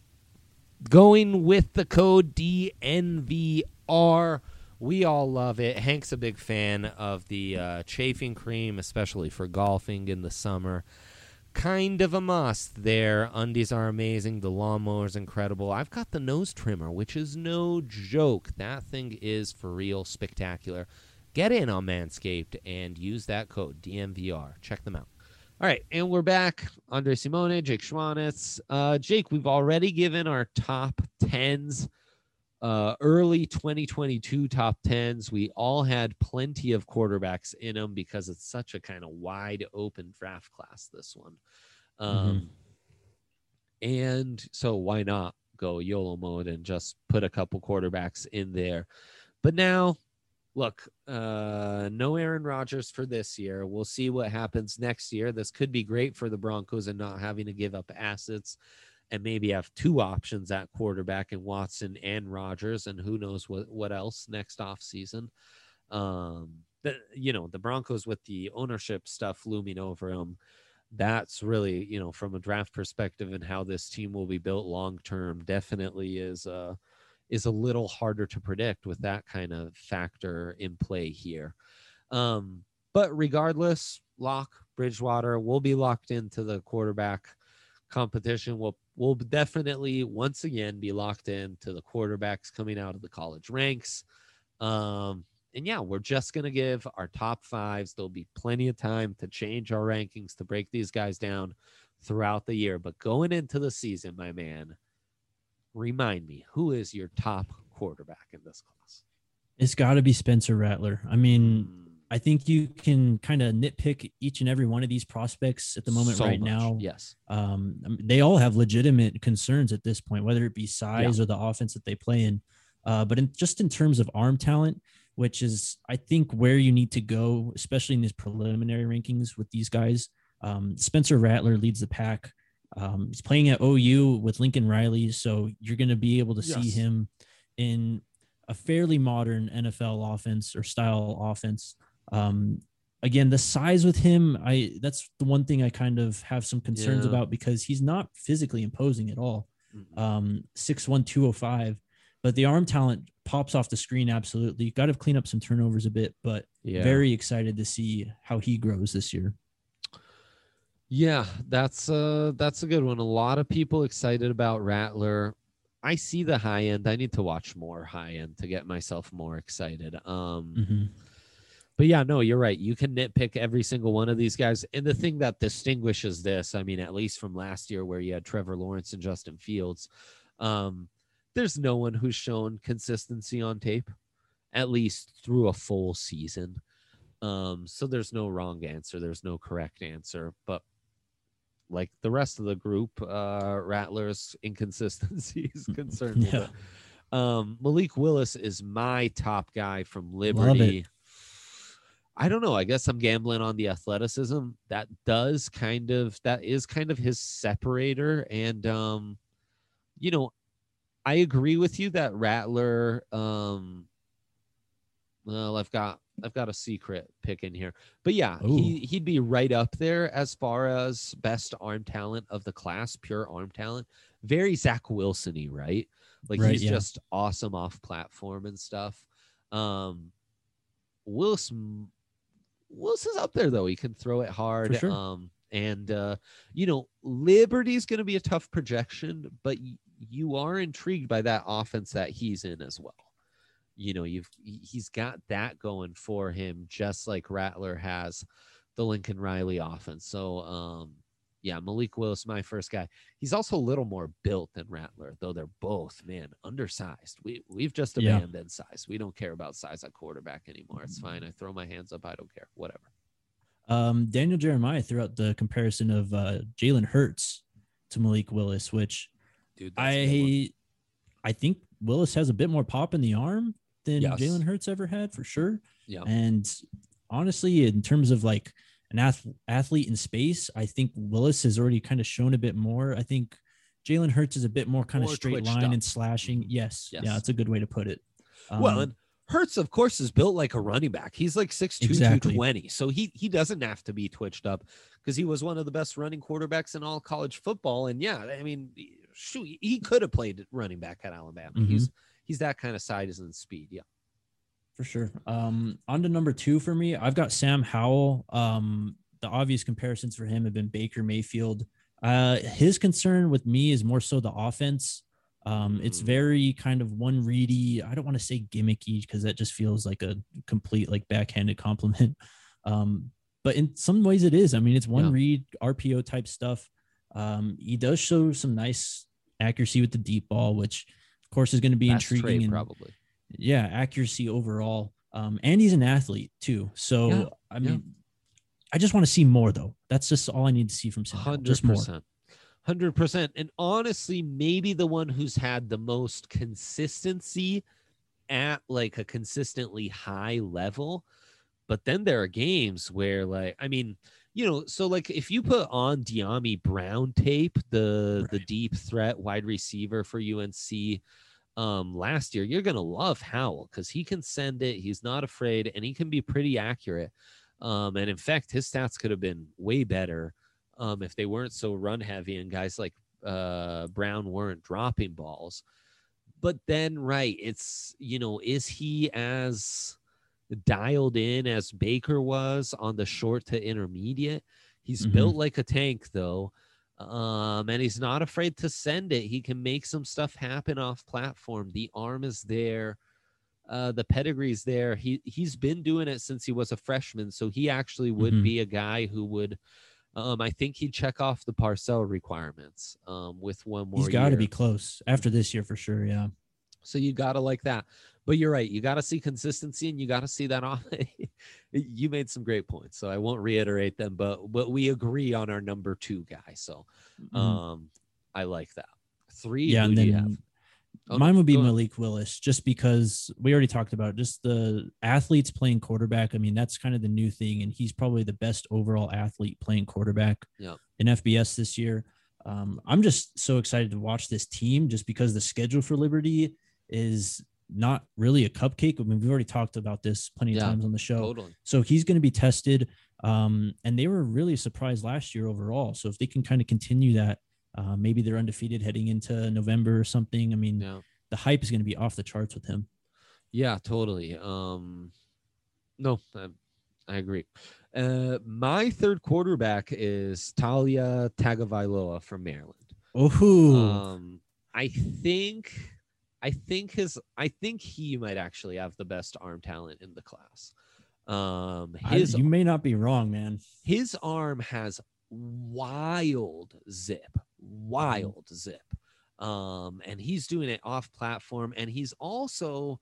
going with the code D N V R. We all love it. Hank's a big fan of the uh, chafing cream, especially for golfing in the summer. Kind of a must there. Undies are amazing. The lawnmower is incredible. I've got the nose trimmer, which is no joke. That thing is for real spectacular. Get in on Manscaped and use that code D M V R. Check them out. All right, and we're back. Andre Simone, Jake Schwanitz. Uh, Jake, we've already given our top tens. Uh, early twenty twenty-two top tens. We all had plenty of quarterbacks in them because it's such a kind of wide open draft class, this one. Um, mm-hmm. And so why not go YOLO mode and just put a couple quarterbacks in there. But now, look, uh, no Aaron Rodgers for this year. We'll see what happens next year. This could be great for the Broncos and not having to give up assets and maybe have two options at quarterback in Watson and Rodgers, and who knows what, what else next offseason. Um, the, you know, the Broncos with the ownership stuff looming over them, that's really, you know, from a draft perspective and how this team will be built long term, definitely is uh is a little harder to predict with that kind of factor in play here. Um, but regardless, Lock, Bridgewater will be locked into the quarterback competition. We'll we'll definitely once again be locked into the quarterbacks coming out of the college ranks. Um, and yeah, we're just going to give our top fives. There'll be plenty of time to change our rankings, to break these guys down throughout the year. But going into the season, my man, remind me, who is your top quarterback in this class? It's got to be Spencer Rattler. I mean, I think you can kind of nitpick each and every one of these prospects at the moment So right much, now. yes. Um, I mean, they all have legitimate concerns at this point, whether it be size Yeah. or the offense that they play in. Uh, but in, just in terms of arm talent, which is, I think, where you need to go, especially in these preliminary rankings with these guys. Um, Spencer Rattler leads the pack. Um, he's playing at O U with Lincoln Riley, so you're going to be able to Yes. see him in a fairly modern N F L offense or style offense. Um, again, the size with him, I that's the one thing I kind of have some concerns Yeah. about, because he's not physically imposing at all. Mm-mm. Um, six one, two oh five, but the arm talent pops off the screen. Absolutely. Got to clean up some turnovers a bit, but Yeah. very excited to see how he grows this year. Yeah, that's uh that's a good one. A lot of people excited about Rattler. I see the high end. I need to watch more high end to get myself more excited. Um Mm-hmm. But yeah, no, you're right. You can nitpick every single one of these guys. And the thing that distinguishes this, I mean, at least from last year where you had Trevor Lawrence and Justin Fields, um, there's no one who's shown consistency on tape, at least through a full season. Um, so there's no wrong answer. There's no correct answer. But like the rest of the group, uh, Rattler's inconsistency is concerned Yeah. with it. Um, Malik Willis is my top guy from Love Liberty. it. I don't know. I guess I'm gambling on the athleticism. That does kind of, that is kind of his separator. And, um, you know, I agree with you that Rattler, um, well, I've got, I've got a secret pick in here, but yeah, Ooh. he, he'd be right up there as far as best arm talent of the class, pure arm talent. Very Zach Wilson-y, right? Like Right, he's yeah. just awesome off platform and stuff. Um, Willis, Willis is up there though. He can throw it hard. For sure. Um, and uh, you know, Liberty's going to be a tough projection, but y- you are intrigued by that offense that he's in as well. You know, you've he's got that going for him, just like Rattler has the Lincoln Riley offense. So, um, yeah, Malik Willis, my first guy. He's also a little more built than Rattler, though they're both, man, undersized. We we've just Yeah. abandoned size. We don't care about size at quarterback anymore. It's fine. I throw my hands up. I don't care. Whatever. Um, Daniel Jeremiah threw out the comparison of uh, Jalen Hurts to Malik Willis, which Dude, that's a good one. I I think Willis has a bit more pop in the arm than Yes. Jalen Hurts ever had, for sure. Yeah. And honestly, in terms of like an ath- athlete in space, I think Willis has already kind of shown a bit more. I think Jalen Hurts is a bit more kind More of straight twitched line up. and slashing. Mhm. Yes. Yes. Yeah, that's a good way to put it. Um, Well, and Hurts, of course, is built like a running back. He's like six two, Exactly. two twenty. So he he doesn't have to be twitched up because he was one of the best running quarterbacks in all college football. And yeah, I mean, shoot, he could have played running back at Alabama. Mhm. He's he's that kind of size and speed. Yeah. For sure. Um, on to number two for me, I've got Sam Howell. Um, the obvious comparisons for him have been Baker Mayfield. Uh, his concern with me is more so the offense. Um, it's Mm. very kind of one ready. I don't want to say gimmicky because that just feels like a complete like backhanded compliment. Um, but in some ways it is. I mean, it's one Yeah. read R P O type stuff. Um, he does show some nice accuracy with the deep ball, which of course is going to be Best intriguing trait, and probably. yeah, accuracy overall. Um, and he's an athlete too. So Yeah, I mean, I just want to see more though. That's just all I need to see from Sam. Howell, Hundred Just more. percent. hundred percent. And honestly, maybe the one who's had the most consistency at like a consistently high level. But then there are games where, like, I mean, you know, so like if you put on De'Ami Brown tape, the Right. the deep threat wide receiver for U N C um last year, you're gonna love Howell because he can send it, he's not afraid, and he can be pretty accurate. Um, and in fact, his stats could have been way better um if they weren't so run heavy and guys like uh Brown weren't dropping balls. But then, right, it's, you know, is he as dialed in as Baker was on the short to intermediate? He's Mhm. built like a tank, though. Um, and he's not afraid to send it. He can make some stuff happen off platform. The arm is there. Uh, the pedigree's there. He, he's been doing it since he was a freshman. So he actually would Mhm. be a guy who would, um, I think he'd check off the Parcell requirements um, with one more He's got to year. be close after this year for sure. Yeah. So you got to like that. But you're right. You got to see consistency and you got to see that off. You made some great points. So I won't reiterate them, but, but we agree on our number two guy. So Mhm. um, I like that. Three. Yeah. Who And do you have? then Oh, mine no, would be go ahead. Malik Willis, just because we already talked about just the athletes playing quarterback. I mean, that's kind of the new thing. And he's probably the best overall athlete playing quarterback Yeah. in F B S this year. Um, I'm just so excited to watch this team just because the schedule for Liberty is not really a cupcake. I mean, we've already talked about this plenty of Yeah, times on the show. Totally. So he's going to be tested. Um, and they were really surprised last year overall. So if they can kind of continue that, uh, maybe they're undefeated heading into November or something. I mean, Yeah. the hype is going to be off the charts with him. Yeah, totally. Um, no, I, I agree. Uh, my third quarterback is Talia Tagovailoa from Maryland. Oh, Um, I think, I think his, I think he might actually have the best arm talent in the class. Um, his, I, you may not be wrong, man. his arm has wild zip, wild zip. Um, and he's doing it off platform, and he's also,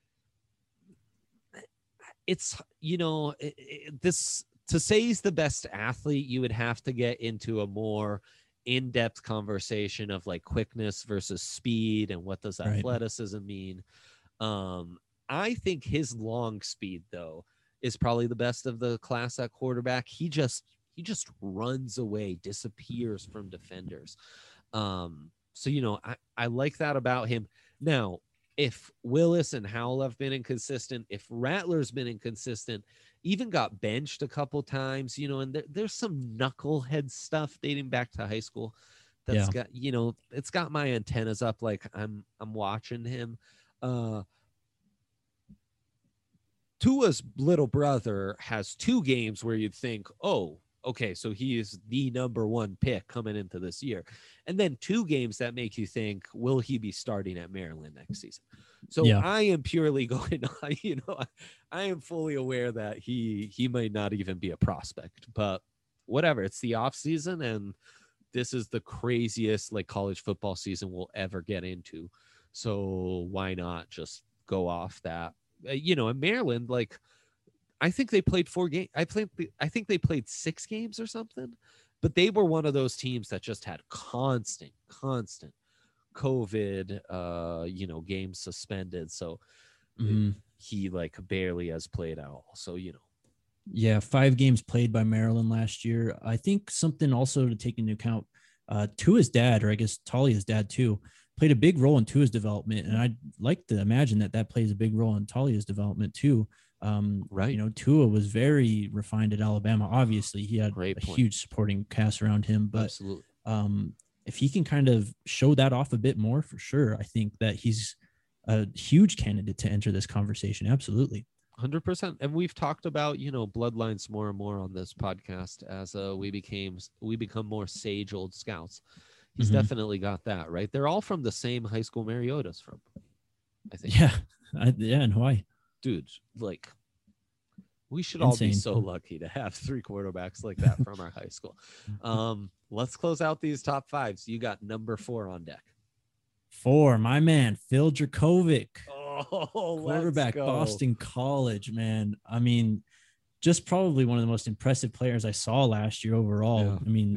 it's, you know, it, it, this, to say he's the best athlete, you would have to get into a more in-depth conversation of like quickness versus speed and what does Right. athleticism mean. Um, I think his long speed, though, is probably the best of the class at quarterback. He just he just runs away, disappears from defenders. Um, so, you know, I, I like that about him. Now, if Willis and Howell have been inconsistent, if Rattler's been inconsistent, even got benched a couple times, you know, and there, there's some knucklehead stuff dating back to high school that's Yeah. got, you know, it's got my antennas up like I'm I'm watching him. Uh Tua's little brother has two games where you'd think, oh, okay, so he is the number one pick coming into this year. And then two games that make you think, will he be starting at Maryland next season? So Yeah. I am purely going on, you know, I, I am fully aware that he he might not even be a prospect, but whatever. It's the off season, and this is the craziest like college football season we'll ever get into. So why not just go off that? Uh, you know, in Maryland, like I think they played four games. I played. I think they played six games or something. But they were one of those teams that just had constant, constant COVID, uh, you know, games suspended. So Mhm. he like barely has played at all. So you know, Yeah, five games played by Maryland last year. I think something also to take into account, uh, Tua's dad, or I guess Talia's dad too, played a big role in Tua's development. And I'd like to imagine that that plays a big role in Talia's development too. Um, Right. You know, Tua was very refined at Alabama. Obviously, he had Great a point. huge supporting cast around him, but absolutely. um, if he can kind of show that off a bit more, for sure, I think that he's a huge candidate to enter this conversation. Absolutely. one hundred percent. And we've talked about, you know, bloodlines more and more on this podcast as uh, we became, we become more sage old scouts. He's Mhm. definitely got that, right? They're all from the same high school Mariota's from, I think. Yeah. I, yeah. In Hawaii. Dude, like, we should all be Insane. so lucky to have three quarterbacks like that from our high school. Um, let's close out these top fives. You got number four on deck. Four, my man, Phil Dracovic, Oh, quarterback, Boston College, man. I mean, just probably one of the most impressive players I saw last year overall. Yeah, I mean, yeah.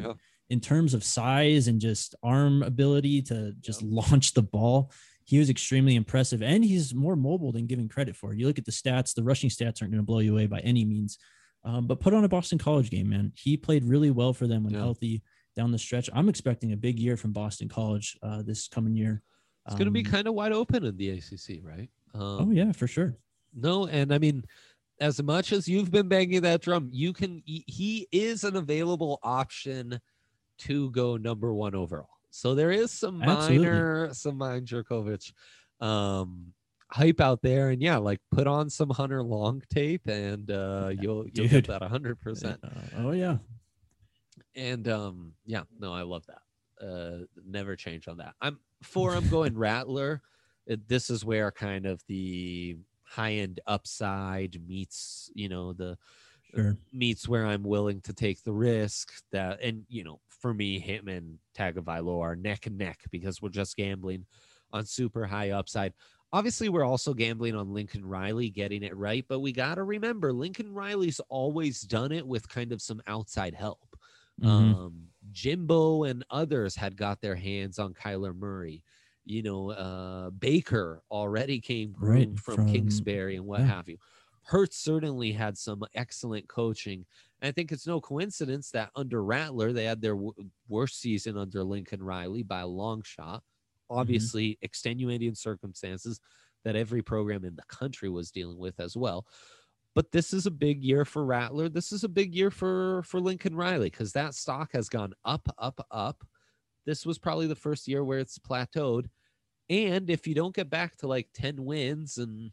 in terms of size and just arm ability to just yep. launch the ball, he was extremely impressive, and he's more mobile than given credit for. You look at the stats, the rushing stats aren't going to blow you away by any means, um, but put on a Boston College game, man. He played really well for them when yeah. healthy down the stretch. I'm expecting a big year from Boston College uh, this coming year. It's um, going to be kind of wide open in the A C C, right? Um, oh, yeah, for sure. No, and I mean, as much as you've been banging that drum, you can. He is an available option to go number one overall. So there is some minor, Absolutely. some minor Jurkovec um, hype out there, and yeah, like put on some Hunter Long tape, and uh, you'll you'll Dude. get that a hundred percent. Oh yeah, and um, yeah, no, I love that. Uh, never change on that. I'm for. I'm going Rattler. It, this is where kind of the high end upside meets, you know, the. Sure. meets where I'm willing to take the risk that, and you know, for me, him and Tagovailoa are neck and neck because we're just gambling on super high upside. Obviously, we're also gambling on Lincoln Riley getting it right, but we got to remember Lincoln Riley's always done it with kind of some outside help. Mm-hmm. Um, Jimbo and others had got their hands on Kyler Murray. You know, uh, Baker already came right, from, from Kingsbury and what yeah. have you. Hurts certainly had some excellent coaching. And I think it's no coincidence that under Rattler, they had their w- worst season under Lincoln Riley by a long shot. Obviously, mm-hmm. extenuating circumstances that every program in the country was dealing with as well. But this is a big year for Rattler. This is a big year for, for Lincoln Riley because that stock has gone up, up, up. This was probably the first year where it's plateaued. And if you don't get back to like ten wins, and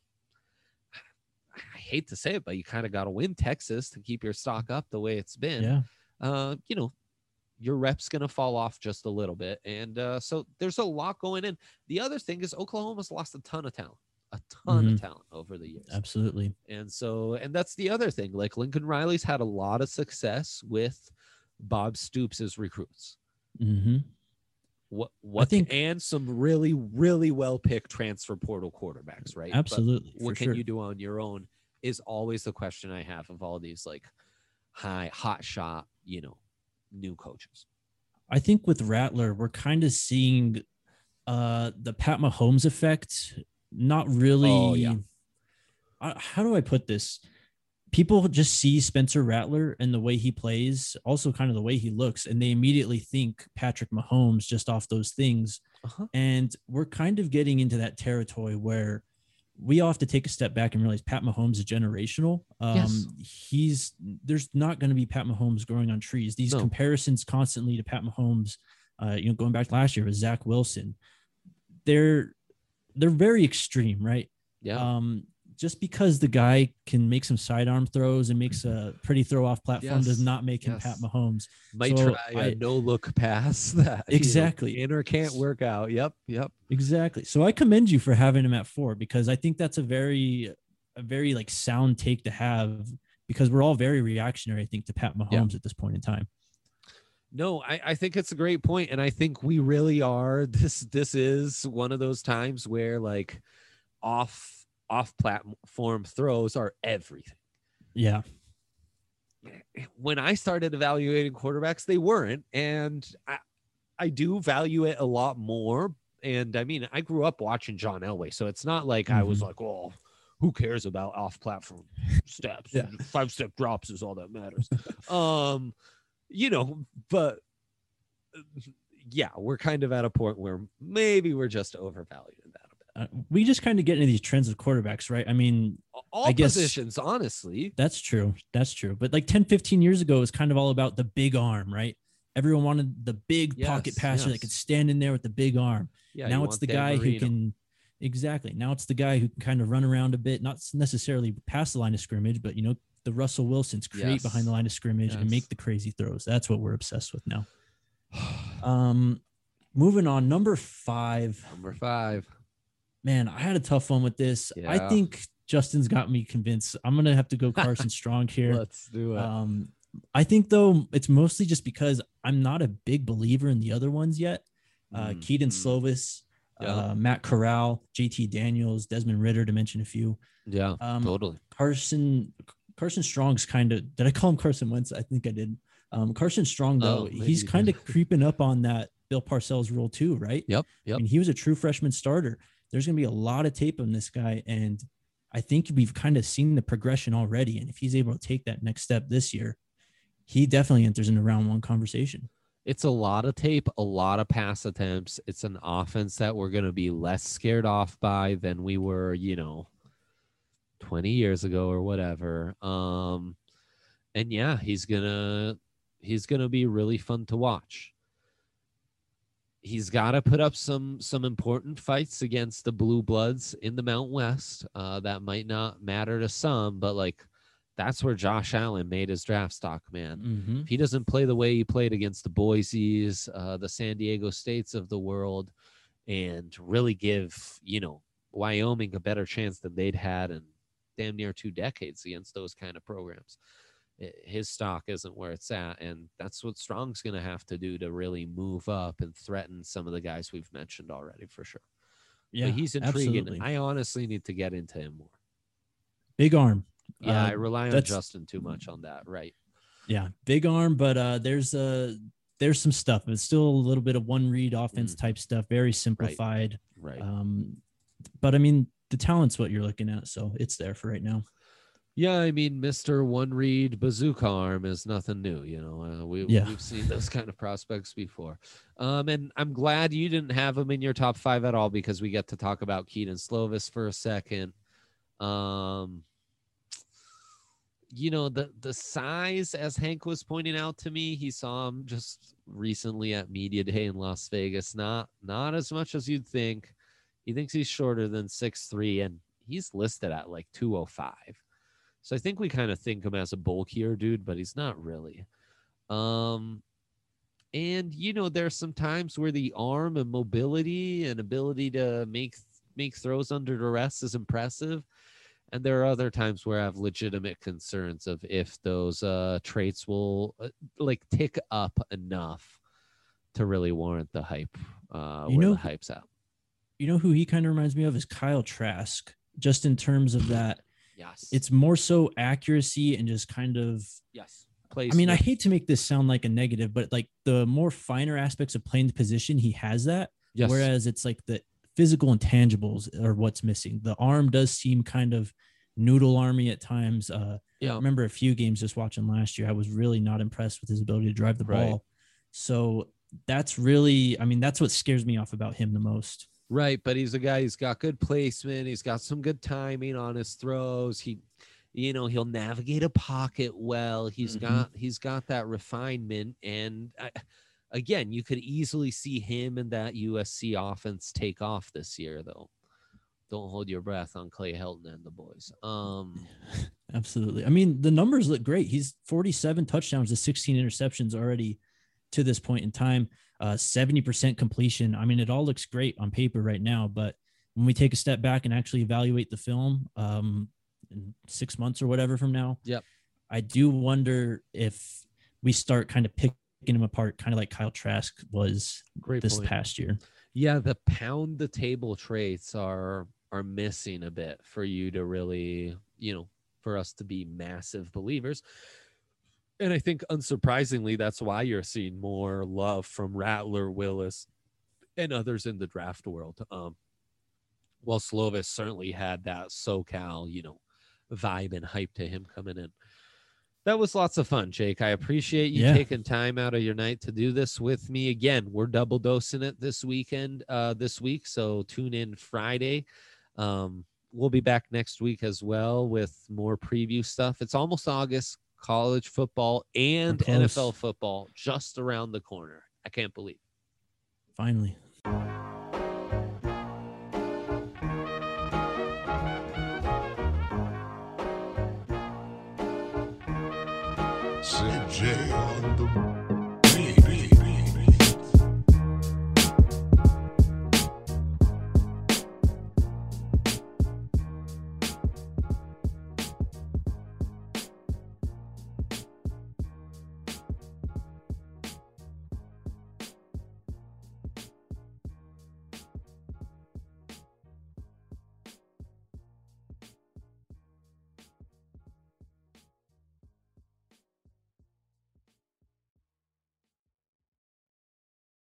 I hate to say it, but you kind of got to win Texas to keep your stock up the way it's been. Yeah. Uh, you know, your rep's going to fall off just a little bit. And uh, so there's a lot going in. The other thing is Oklahoma's lost a ton of talent, a ton mm-hmm. of talent over the years. Absolutely. And so, and that's the other thing. Like Lincoln Riley's had a lot of success with Bob Stoops' recruits. Mm-hmm. What, what, I think, and some really, really well picked transfer portal quarterbacks, right? Absolutely. But what can sure. you do on your own is always the question I have of all these like high, hot shot, you know, new coaches. I think with Rattler, we're kind of seeing uh, the Pat Mahomes effect. Not really. Oh, yeah. I, how do I put this? People just see Spencer Rattler and the way he plays, also kind of the way he looks, and they immediately think Patrick Mahomes just off those things. Uh-huh. And we're kind of getting into that territory where we all have to take a step back and realize Pat Mahomes is generational. Um, yes. He's there's not going to be Pat Mahomes growing on trees. These no. comparisons constantly to Pat Mahomes, uh, you know, going back last year with Zach Wilson, they're they're very extreme, right? Yeah. Um, just because the guy can make some sidearm throws and makes a pretty throw off platform yes. does not make him yes. Pat Mahomes. Might so try a no look pass that exactly you know, can or can't work out. Yep. Yep. Exactly. So I commend you for having him at four, because I think that's a very, a very like sound take to have, because we're all very reactionary, I think, to Pat Mahomes yeah. at this point in time. No, I, I think it's a great point. And I think we really are. This, this is one of those times where like off, off platform throws are everything. Yeah. When I started evaluating quarterbacks, they weren't. And I, I do value it a lot more. And I mean, I grew up watching John Elway, so it's not like mm-hmm. I was like, oh, who cares about off platform steps? yeah. Five step drops is all that matters. um, you know, but yeah, we're kind of at a point where maybe we're just overvaluing that. Uh, we just kind of get into these trends of quarterbacks, right? I mean, all I guess positions, honestly. That's true. That's true. But like ten, fifteen years ago, it was kind of all about the big arm, right? Everyone wanted the big yes, pocket passer yes. that could stand in there with the big arm. Yeah, now it's the Dan guy Marino. who can, exactly. Now it's the guy who can kind of run around a bit, not necessarily past the line of scrimmage, but, you know, the Russell Wilsons create yes. behind the line of scrimmage yes. and make the crazy throws. That's what we're obsessed with now. um, moving on, number five. Number five. Man, I had a tough one with this. Yeah. I think Justin's got me convinced. I'm going to have to go Carson Strong here. Let's do it. Um, I think, though, it's mostly just because I'm not a big believer in the other ones yet. Uh, mm, Keaton mm. Slovis, yeah. uh, Matt Corral, J T Daniels, Desmond Ritter, to mention a few. Yeah, um, totally. Carson Carson Strong's kind of – did I call him Carson Wentz? I think I did. Um, Carson Strong, though, Oh, maybe he's you kind did. of creeping up on that Bill Parcells rule too, right? Yep. I Yep. mean, he was a true freshman starter. There's going to be a lot of tape on this guy, and I think we've kind of seen the progression already. And if he's able to take that next step this year, he definitely enters into round one conversation. It's a lot of tape, a lot of pass attempts. It's an offense that we're going to be less scared off by than we were, you know, twenty years ago or whatever. Um, and yeah, he's going to, he's going to be really fun to watch. He's got to put up some, some important fights against the Blue Bloods in the Mountain West. Uh, that might not matter to some, but like, that's where Josh Allen made his draft stock, man. Mm-hmm. If he doesn't play the way he played against the Boise's, uh, the San Diego States of the world, and really give, you know, Wyoming a better chance than they'd had in damn near two decades against those kind of programs, it, his stock isn't where it's at. And that's what Strong's going to have to do to really move up and threaten some of the guys we've mentioned already, for sure. Yeah, but he's intriguing. Absolutely. I honestly need to get into him more. Big arm. Yeah, uh, I rely on Justin too much on that, right? Yeah, big arm, but uh, there's uh, there's some stuff. It's still a little bit of one read offense Mm. type stuff, very simplified. Right. Um, but I mean, the talent's what you're looking at, so it's there for right now. Yeah, I mean, Mister One Read Bazooka Arm is nothing new. You know, uh, we, Yeah. we've seen those kind of prospects before. Um, and I'm glad you didn't have him in your top five at all, because we get to talk about Keaton Slovis for a second. Um, you know, the, the size, as Hank was pointing out to me, he saw him just recently at Media Day in Las Vegas. Not, not as much as you'd think. He thinks he's shorter than six three, and he's listed at like two oh five. So I think we kind of think him as a bulkier dude, but he's not really. Um, and, you know, there's some times where the arm and mobility and ability to make make throws under duress is impressive. And there are other times where I have legitimate concerns of if those uh, traits will uh, like tick up enough to really warrant the hype. Uh, You where know- the hype's at. You know who he kind of reminds me of is Kyle Trask, just in terms of that. Yes. It's more so accuracy and just kind of. yes. Plays. I mean, I hate to make this sound like a negative, but like the more finer aspects of playing the position, he has that. yes. Whereas it's like the physical intangibles are what's missing. The arm does seem kind of noodle army at times. Uh, yeah. I remember a few games just watching last year. I was really not impressed with his ability to drive the Right. ball. So that's really, I mean, that's what scares me off about him the most. Right, but he's a guy who's got good placement. He's got some good timing on his throws. He, you know, he'll navigate a pocket well. He's Mhm. got he's got that refinement, and I, again, you could easily see him and that U S C offense take off this year, though. Don't hold your breath on Clay Helton and the boys. Um, Absolutely. I mean, the numbers look great. He's forty-seven touchdowns to sixteen interceptions already to this point in time. Uh, seventy percent completion. I mean, it all looks great on paper right now, but when we take a step back and actually evaluate the film um, in six months or whatever from now, Yep. I do wonder if we start kind of picking him apart, kind of like Kyle Trask was great this point. past year. Yeah, the pound the table traits are are missing a bit for you to really, you know, for us to be massive believers. And I think unsurprisingly, that's why you're seeing more love from Rattler, Willis, and others in the draft world. Um, well, Slovis certainly had that SoCal, you know, vibe and hype to him coming in. That was lots of fun, Jake. I appreciate you Yeah. taking time out of your night to do this with me. Again, we're double dosing it this weekend, uh, this week. So tune in Friday. Um, we'll be back next week as well with more preview stuff. It's almost August. College football and We're close. N F L football just around the corner. I can't believe it. Finally. C J on the